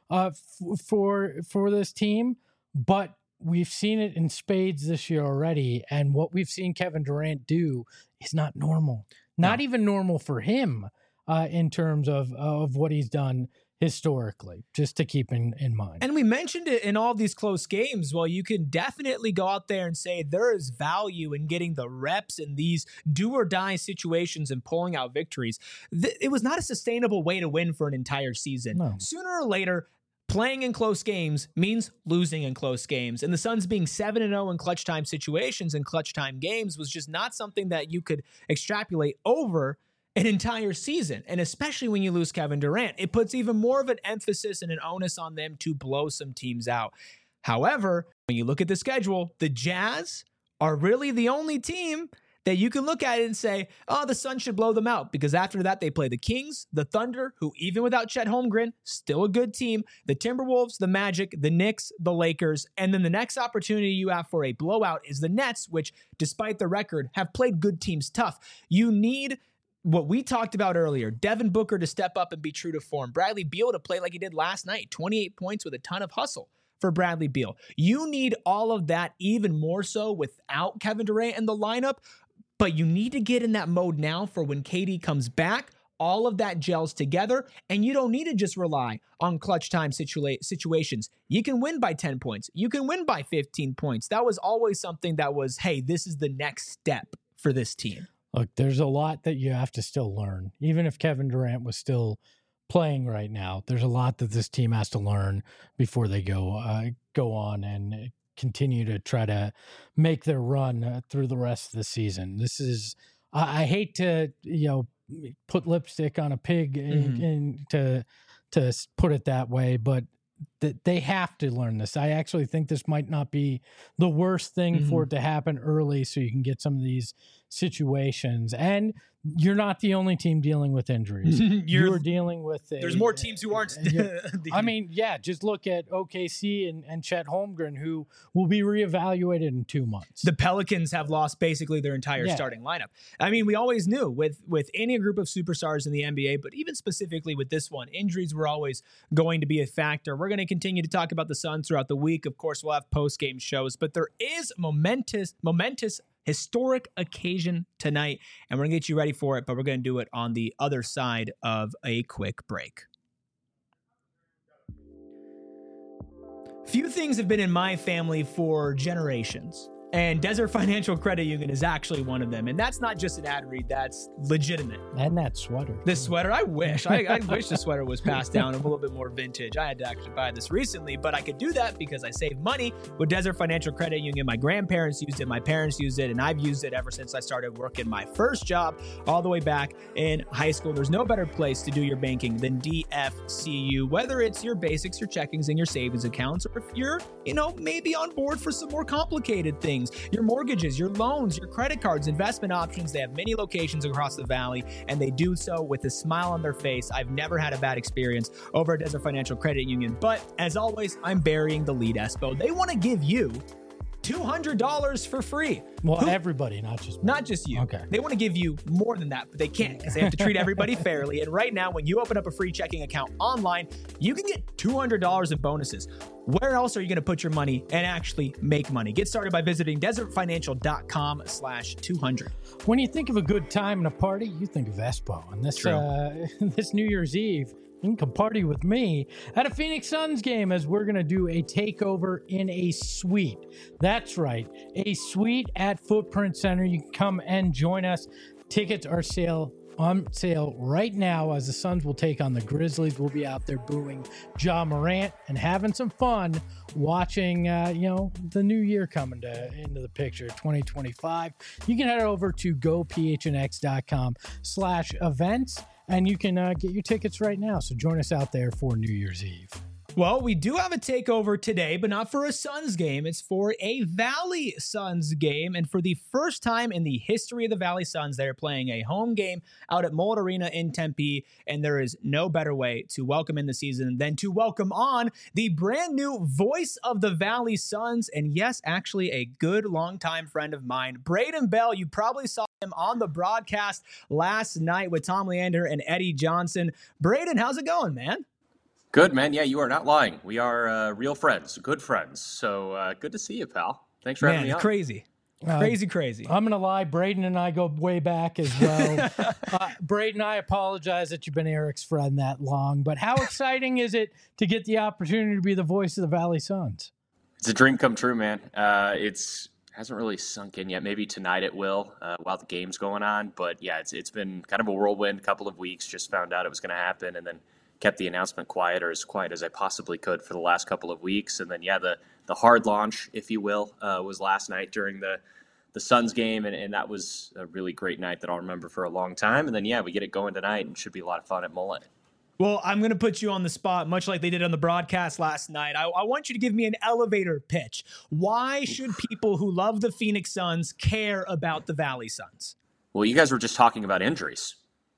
for this team, but we've seen it in spades this year already. And what we've seen Kevin Durant do is not normal, not even normal for him in terms of what he's done historically, just to keep in mind. And we mentioned it in all these close games. Well, you can definitely go out there and say there is value in getting the reps in these do or die situations and pulling out victories. It was not a sustainable way to win for an entire season. No. Sooner or later, playing in close games means losing in close games. And the Suns being 7-0 in clutch time situations and clutch time games was just not something that you could extrapolate over an entire season. And especially when you lose Kevin Durant, it puts even more of an emphasis and an onus on them to blow some teams out. However, when you look at the schedule, the Jazz are really the only team that you can look at it and say, oh, the Suns should blow them out, because after that they play the Kings, the Thunder, who even without Chet Holmgren, still a good team, the Timberwolves, the Magic, the Knicks, the Lakers, and then the next opportunity you have for a blowout is the Nets, which, despite the record, have played good teams tough. You need what we talked about earlier, Devin Booker to step up and be true to form, Bradley Beal to play like he did last night, 28 points with a ton of hustle for Bradley Beal. You need all of that even more so without Kevin Durant in the lineup, but you need to get in that mode now for when KD comes back. All of that gels together, and you don't need to just rely on clutch time situations. You can win by 10 points. You can win by 15 points. That was always something that was, hey, this is the next step for this team. Look, there's a lot that you have to still learn. Even if Kevin Durant was still playing right now, there's a lot that this team has to learn before they go on and continue to try to make their run through the rest of the season. This is, I hate to, put lipstick on a pig and to put it that way, but they have to learn this. I actually think this might not be the worst thing for it to happen early, so you can get some of these situations. And you're not the only team dealing with injuries. You're dealing with there's more teams who aren't. I mean, yeah, just look at OKC and Chet Holmgren, who will be reevaluated in 2 months. The Pelicans have lost basically their entire starting lineup. I mean, we always knew with any group of superstars in the NBA, but even specifically with this one, injuries were always going to be a factor. We're going to continue to talk about the Suns throughout the week. Of course, we'll have post-game shows, but there is momentous historic occasion tonight, and we're going to get you ready for it, but we're going to do it on the other side of a quick break. Few things have been in my family for generations, and Desert Financial Credit Union is actually one of them. And that's not just an ad read, that's legitimate. And that sweater. This sweater, I wish. I wish the sweater was passed down a little bit more vintage. I had to actually buy this recently, but I could do that because I saved money with Desert Financial Credit Union. My grandparents used it, my parents used it, and I've used it ever since I started working my first job all the way back in high school. There's no better place to do your banking than DFCU, whether it's your basics, your checkings, and your savings accounts, or if you're, maybe on board for some more complicated things. Your mortgages, your loans, your credit cards, investment options. They have many locations across the valley, and they do so with a smile on their face. I've never had a bad experience over at Desert Financial Credit Union. But as always, I'm burying the lead, Espo. They want to give you $200 for free. Well, everybody, not just me. Not just you. Okay. They want to give you more than that, but they can't because they have to treat everybody fairly. And right now, when you open up a free checking account online, you can get $200 in bonuses. Where else are you going to put your money and actually make money? Get started by visiting desertfinancial.com/200. When you think of a good time and a party, you think of Espo. And this this New Year's Eve, you can come party with me at a Phoenix Suns game, as we're going to do a takeover in a suite. That's right, a suite at Footprint Center. You can come and join us. Tickets are on sale right now, as the Suns will take on the Grizzlies. We'll be out there booing Ja Morant and having some fun watching, the new year coming into the picture, 2025. You can head over to gophnx.com/events. And you can get your tickets right now. So join us out there for New Year's Eve. Well, we do have a takeover today, but not for a Suns game. It's for a Valley Suns game. And for the first time in the history of the Valley Suns, they're playing a home game out at Mold Arena in Tempe. And there is no better way to welcome in the season than to welcome on the brand new voice of the Valley Suns. And yes, actually a good longtime friend of mine, Braden Bell. You probably saw him on the broadcast last night with Tom Leander and Eddie Johnson. Braden, how's it going, man? Good, man. Yeah, you are not lying. We are real friends, good friends. So good to see you, pal. Thanks for having me on. Crazy. Crazy. I'm going to lie. Braden and I go way back as well. Braden, I apologize that you've been Eric's friend that long, but how exciting is it to get the opportunity to be the voice of the Valley Suns? It's a dream come true, man. Hasn't really sunk in yet. Maybe tonight it will while the game's going on. But yeah, it's been kind of a whirlwind couple of weeks. Just found out it was going to happen and then kept the announcement quiet, or as quiet as I possibly could for the last couple of weeks. And then, yeah, the hard launch, if you will, was last night during the Suns game. And that was a really great night that I'll remember for a long time. And then, yeah, we get it going tonight and should be a lot of fun at Mullet. Well, I'm going to put you on the spot, much like they did on the broadcast last night. I want you to give me an elevator pitch. Why should people who love the Phoenix Suns care about the Valley Suns? Well, you guys were just talking about injuries.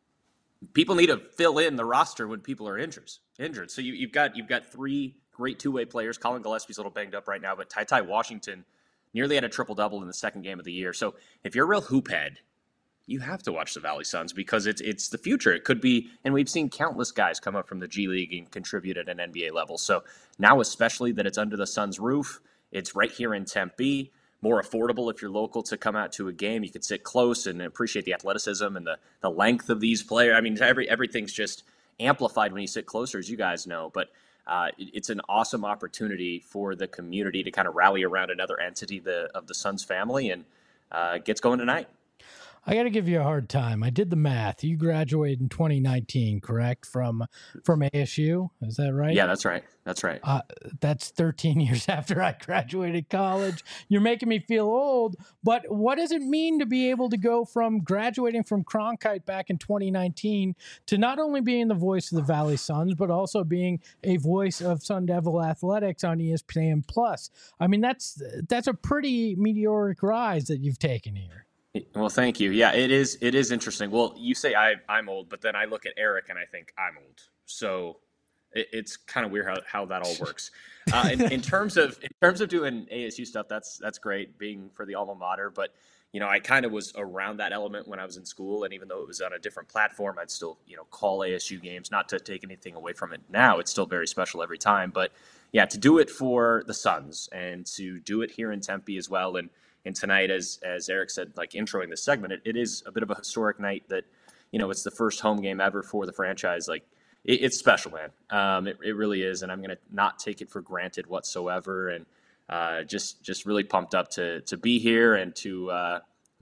People need to fill in the roster when people are injured. So you've got three great two-way players. Colin Gillespie's a little banged up right now, but Ty Washington nearly had a triple-double in the second game of the year. So if you're a real hoop head, you have to watch the Valley Suns because it's the future. It could be, and we've seen countless guys come up from the G League and contribute at an NBA level. So now, especially that it's under the Suns' roof, it's right here in Tempe. More affordable if you're local to come out to a game. You could sit close and appreciate the athleticism and the length of these players. I mean, everything's just amplified when you sit closer, as you guys know. But it's an awesome opportunity for the community to kind of rally around another entity of the Suns family, and gets going tonight. I got to give you a hard time. I did the math. You graduated in 2019, correct? From ASU, is that right? Yeah, that's right. That's 13 years after I graduated college. You're making me feel old, but what does it mean to be able to go from graduating from Cronkite back in 2019 to not only being the voice of the Valley Suns, but also being a voice of Sun Devil Athletics on ESPN Plus? I mean, that's a pretty meteoric rise that you've taken here. Well, thank you. Yeah, it is interesting. Well, you say I'm old, but then I look at Eric and I think I'm old. So it's kind of weird how that all works. In terms of doing ASU stuff, that's great, being for the alma mater. But I kind of was around that element when I was in school, and even though it was on a different platform, I'd still call ASU games. Not to take anything away from it now, it's still very special every time. But yeah, to do it for the Suns and to do it here in Tempe as well, and tonight, as Eric said, like introing this segment, it is a bit of a historic night that, it's the first home game ever for the franchise. Like, it's special, man. It really is, and I'm going to not take it for granted whatsoever. And just really pumped up to be here and to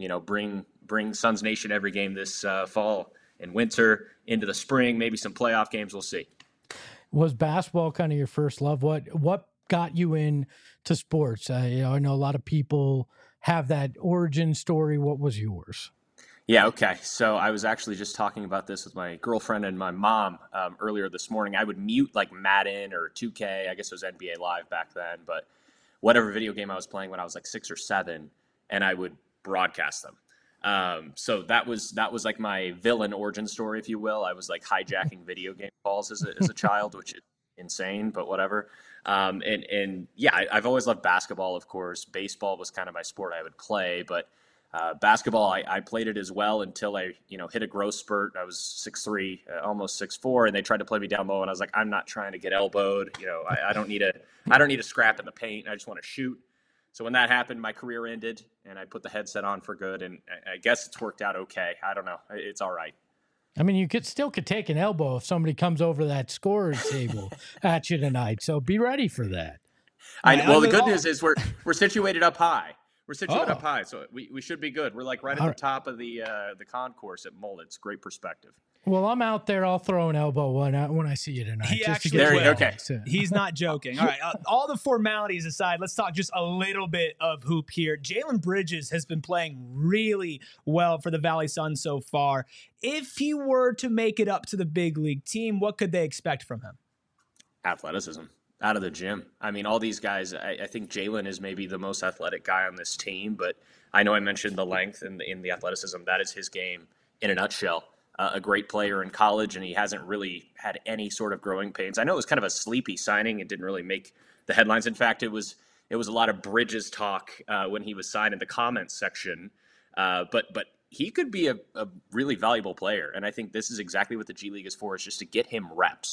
bring Suns Nation every game this fall and winter into the spring. Maybe some playoff games. We'll see. Was basketball kind of your first love? What got you into sports? I know a lot of people have that origin story. What was yours? Yeah, okay. So I was actually just talking about this with my girlfriend and my mom earlier this morning. I would mute like Madden or 2K. I guess it was NBA Live back then, but whatever video game I was playing when I was like 6 or 7, and I would broadcast them. So that was like my villain origin story, if you will. I was like hijacking video game calls as a child, which is insane, but whatever. And yeah, I've always loved basketball, of course. Baseball was kind of my sport I would play, but basketball, I played it as well until I, hit a growth spurt. I was 6'3", almost 6'4", and they tried to play me down low, and I was like, I'm not trying to get elbowed. I don't need a scrap in the paint. I just want to shoot. So when that happened, my career ended, and I put the headset on for good, and I guess it's worked out okay. I don't know. It's all right. I mean, you could take an elbow if somebody comes over that scorer's table at you tonight. So be ready for that. Well, the good news is we're situated up high. We're situated up high, so we should be good. We're like right at the top of the concourse at Mullet. It's great perspective. Well, I'm out there. I'll throw an elbow when I see you tonight. He just actually to get will. Okay. He's not joking. All right. All the formalities aside, let's talk just a little bit of hoop here. Jalen Bridges has been playing really well for the Valley Suns so far. If he were to make it up to the big league team, what could they expect from him? Athleticism. Out of the gym. I mean, all these guys, I think Jalen is maybe the most athletic guy on this team, but I know I mentioned the length and the athleticism. That is his game in a nutshell. A great player in college, and he hasn't really had any sort of growing pains. I know it was kind of a sleepy signing. It didn't really make the headlines. In fact, it was a lot of Bridges talk when he was signed in the comments section. But he could be a really valuable player, and I think this is exactly what the G League is for, is just to get him reps.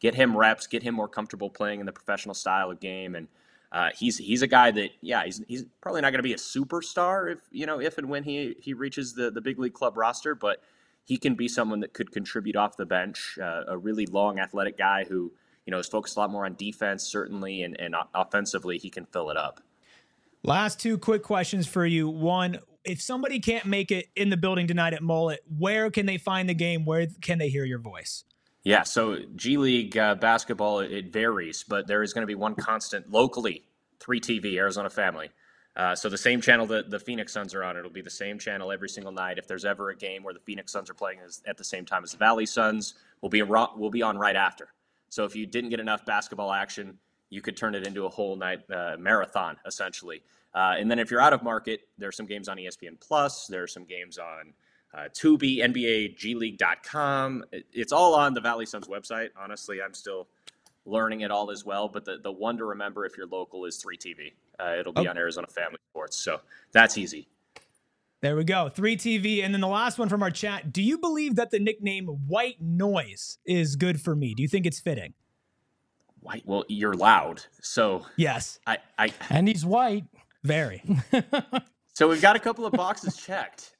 get him reps, get him more comfortable playing in the professional style of game. And he's a guy that, he's probably not going to be a superstar if and when he reaches the big league club roster, but he can be someone that could contribute off the bench, a really long athletic guy who, is focused a lot more on defense, certainly, and offensively, he can fill it up. Last two quick questions for you. One, if somebody can't make it in the building tonight at Mullet, where can they find the game? Where can they hear your voice? Yeah, so G League basketball, it varies, but there is going to be one constant locally, 3TV, Arizona Family. So the same channel that the Phoenix Suns are on, it'll be the same channel every single night. If there's ever a game where the Phoenix Suns are playing at the same time as the Valley Suns, we'll be on right after. So if you didn't get enough basketball action, you could turn it into a whole night marathon, essentially. And then if you're out of market, there's some games on ESPN Plus. There are some games on Tubi, NBA, GLeague.com. It's all on the Valley Suns website. Honestly, I'm still learning it all as well. But the one to remember if you're local is 3TV. It'll be on Arizona Family Sports. So that's easy. There we go. 3TV. And then the last one from our chat. Do you believe that the nickname White Noise is good for me? Do you think it's fitting? White? Well, you're loud. So yes. And he's white. Very. So we've got a couple of boxes checked.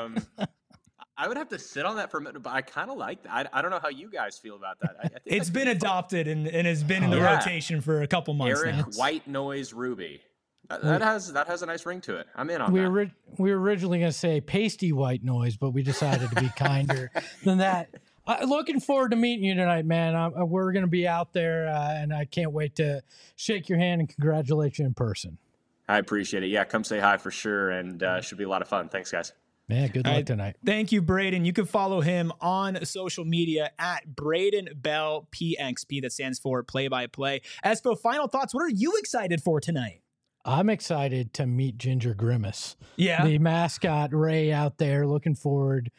I would have to sit on that for a minute, but I kind of like that. I don't know how you guys feel about that. I think it's been adopted and has been in the rotation for a couple months Eric now. White Noise Ruby. That has a nice ring to it. I'm in on we that. We were originally going to say pasty white noise, but we decided to be kinder than that. Looking forward to meeting you tonight, man. We're going to be out there, and I can't wait to shake your hand and congratulate you in person. I appreciate it. Yeah, come say hi for sure, and should be a lot of fun. Thanks, guys. Man, good luck tonight. Thank you, Braden. You can follow him on social media at Braden Bell PXP. That stands for play-by-play. Espo, final thoughts. What are you excited for tonight? I'm excited to meet Ginger Grimace. Yeah. The mascot Ray out there. Looking forward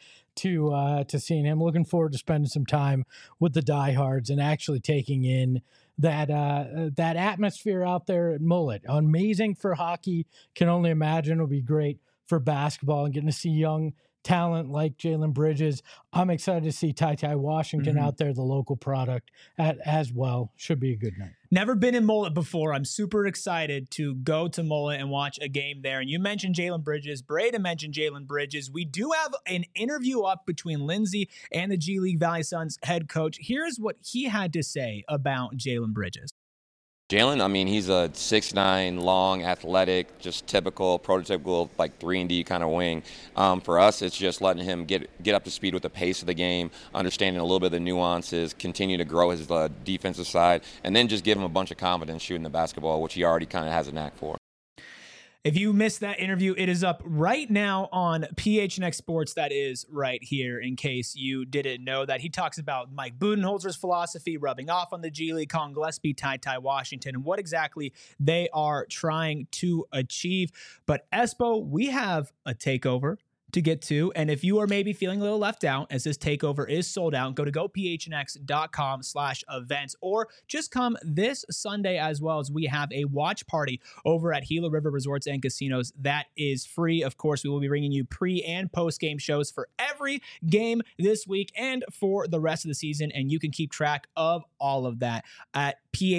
to seeing him. Looking forward to spending some time with the diehards and actually taking in that atmosphere out there at Mullet. Amazing for hockey. Can only imagine it'll be great for basketball and getting to see young talent like Jalen Bridges. I'm excited to see Ty Washington out there, the local product as well. Should be a good night. Never been in Mullet before. I'm super excited to go to Mullet and watch a game there. And you mentioned Jalen Bridges. Braden mentioned Jalen Bridges. We do have an interview up between Lindsay and the G League Valley Suns head coach. Here's what he had to say about Jalen Bridges. Jalen, I mean, he's a 6'9", long, athletic, just typical, prototypical, like 3-and-D kind of wing. For us, it's just letting him get up to speed with the pace of the game, understanding a little bit of the nuances, continue to grow his defensive side, and then just give him a bunch of confidence shooting the basketball, which he already kind of has a knack for. If you missed that interview, it is up right now on PHNX Sports. That is right here, in case you didn't know that. He talks about Mike Budenholzer's philosophy, rubbing off on the G League, Colin Gillespie, Ty Washington, and what exactly they are trying to achieve. But Espo, we have a takeover to get to. And if you are maybe feeling a little left out as this takeover is sold out, go to gophnx.com/events, or just come this Sunday as well, as we have a watch party over at Gila River Resorts and Casinos. That is free. Of course, we will be bringing you pre and post game shows for every game this week and for the rest of the season. And you can keep track of all of that at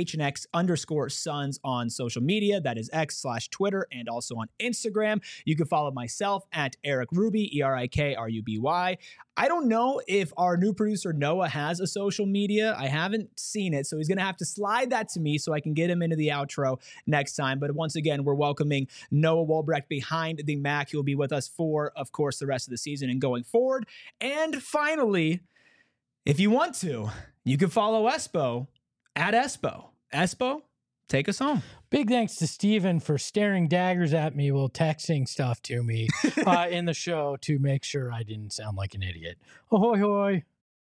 PHNX_Suns on social media. That is X/Twitter and also on Instagram. You can follow myself at Eric Ruby, ERIKRUBY. I don't know if our new producer Noah has a social media. I haven't seen it, so he's going to have to slide that to me so I can get him into the outro next time. But once again, we're welcoming Noah Wolbrecht behind the Mac. He'll be with us for, of course, the rest of the season and going forward. And finally, if you want to, you can follow Espo at Espo. Espo, take us home. Big thanks to Steven for staring daggers at me while texting stuff to me in the show to make sure I didn't sound like an idiot. Ahoy, hoy.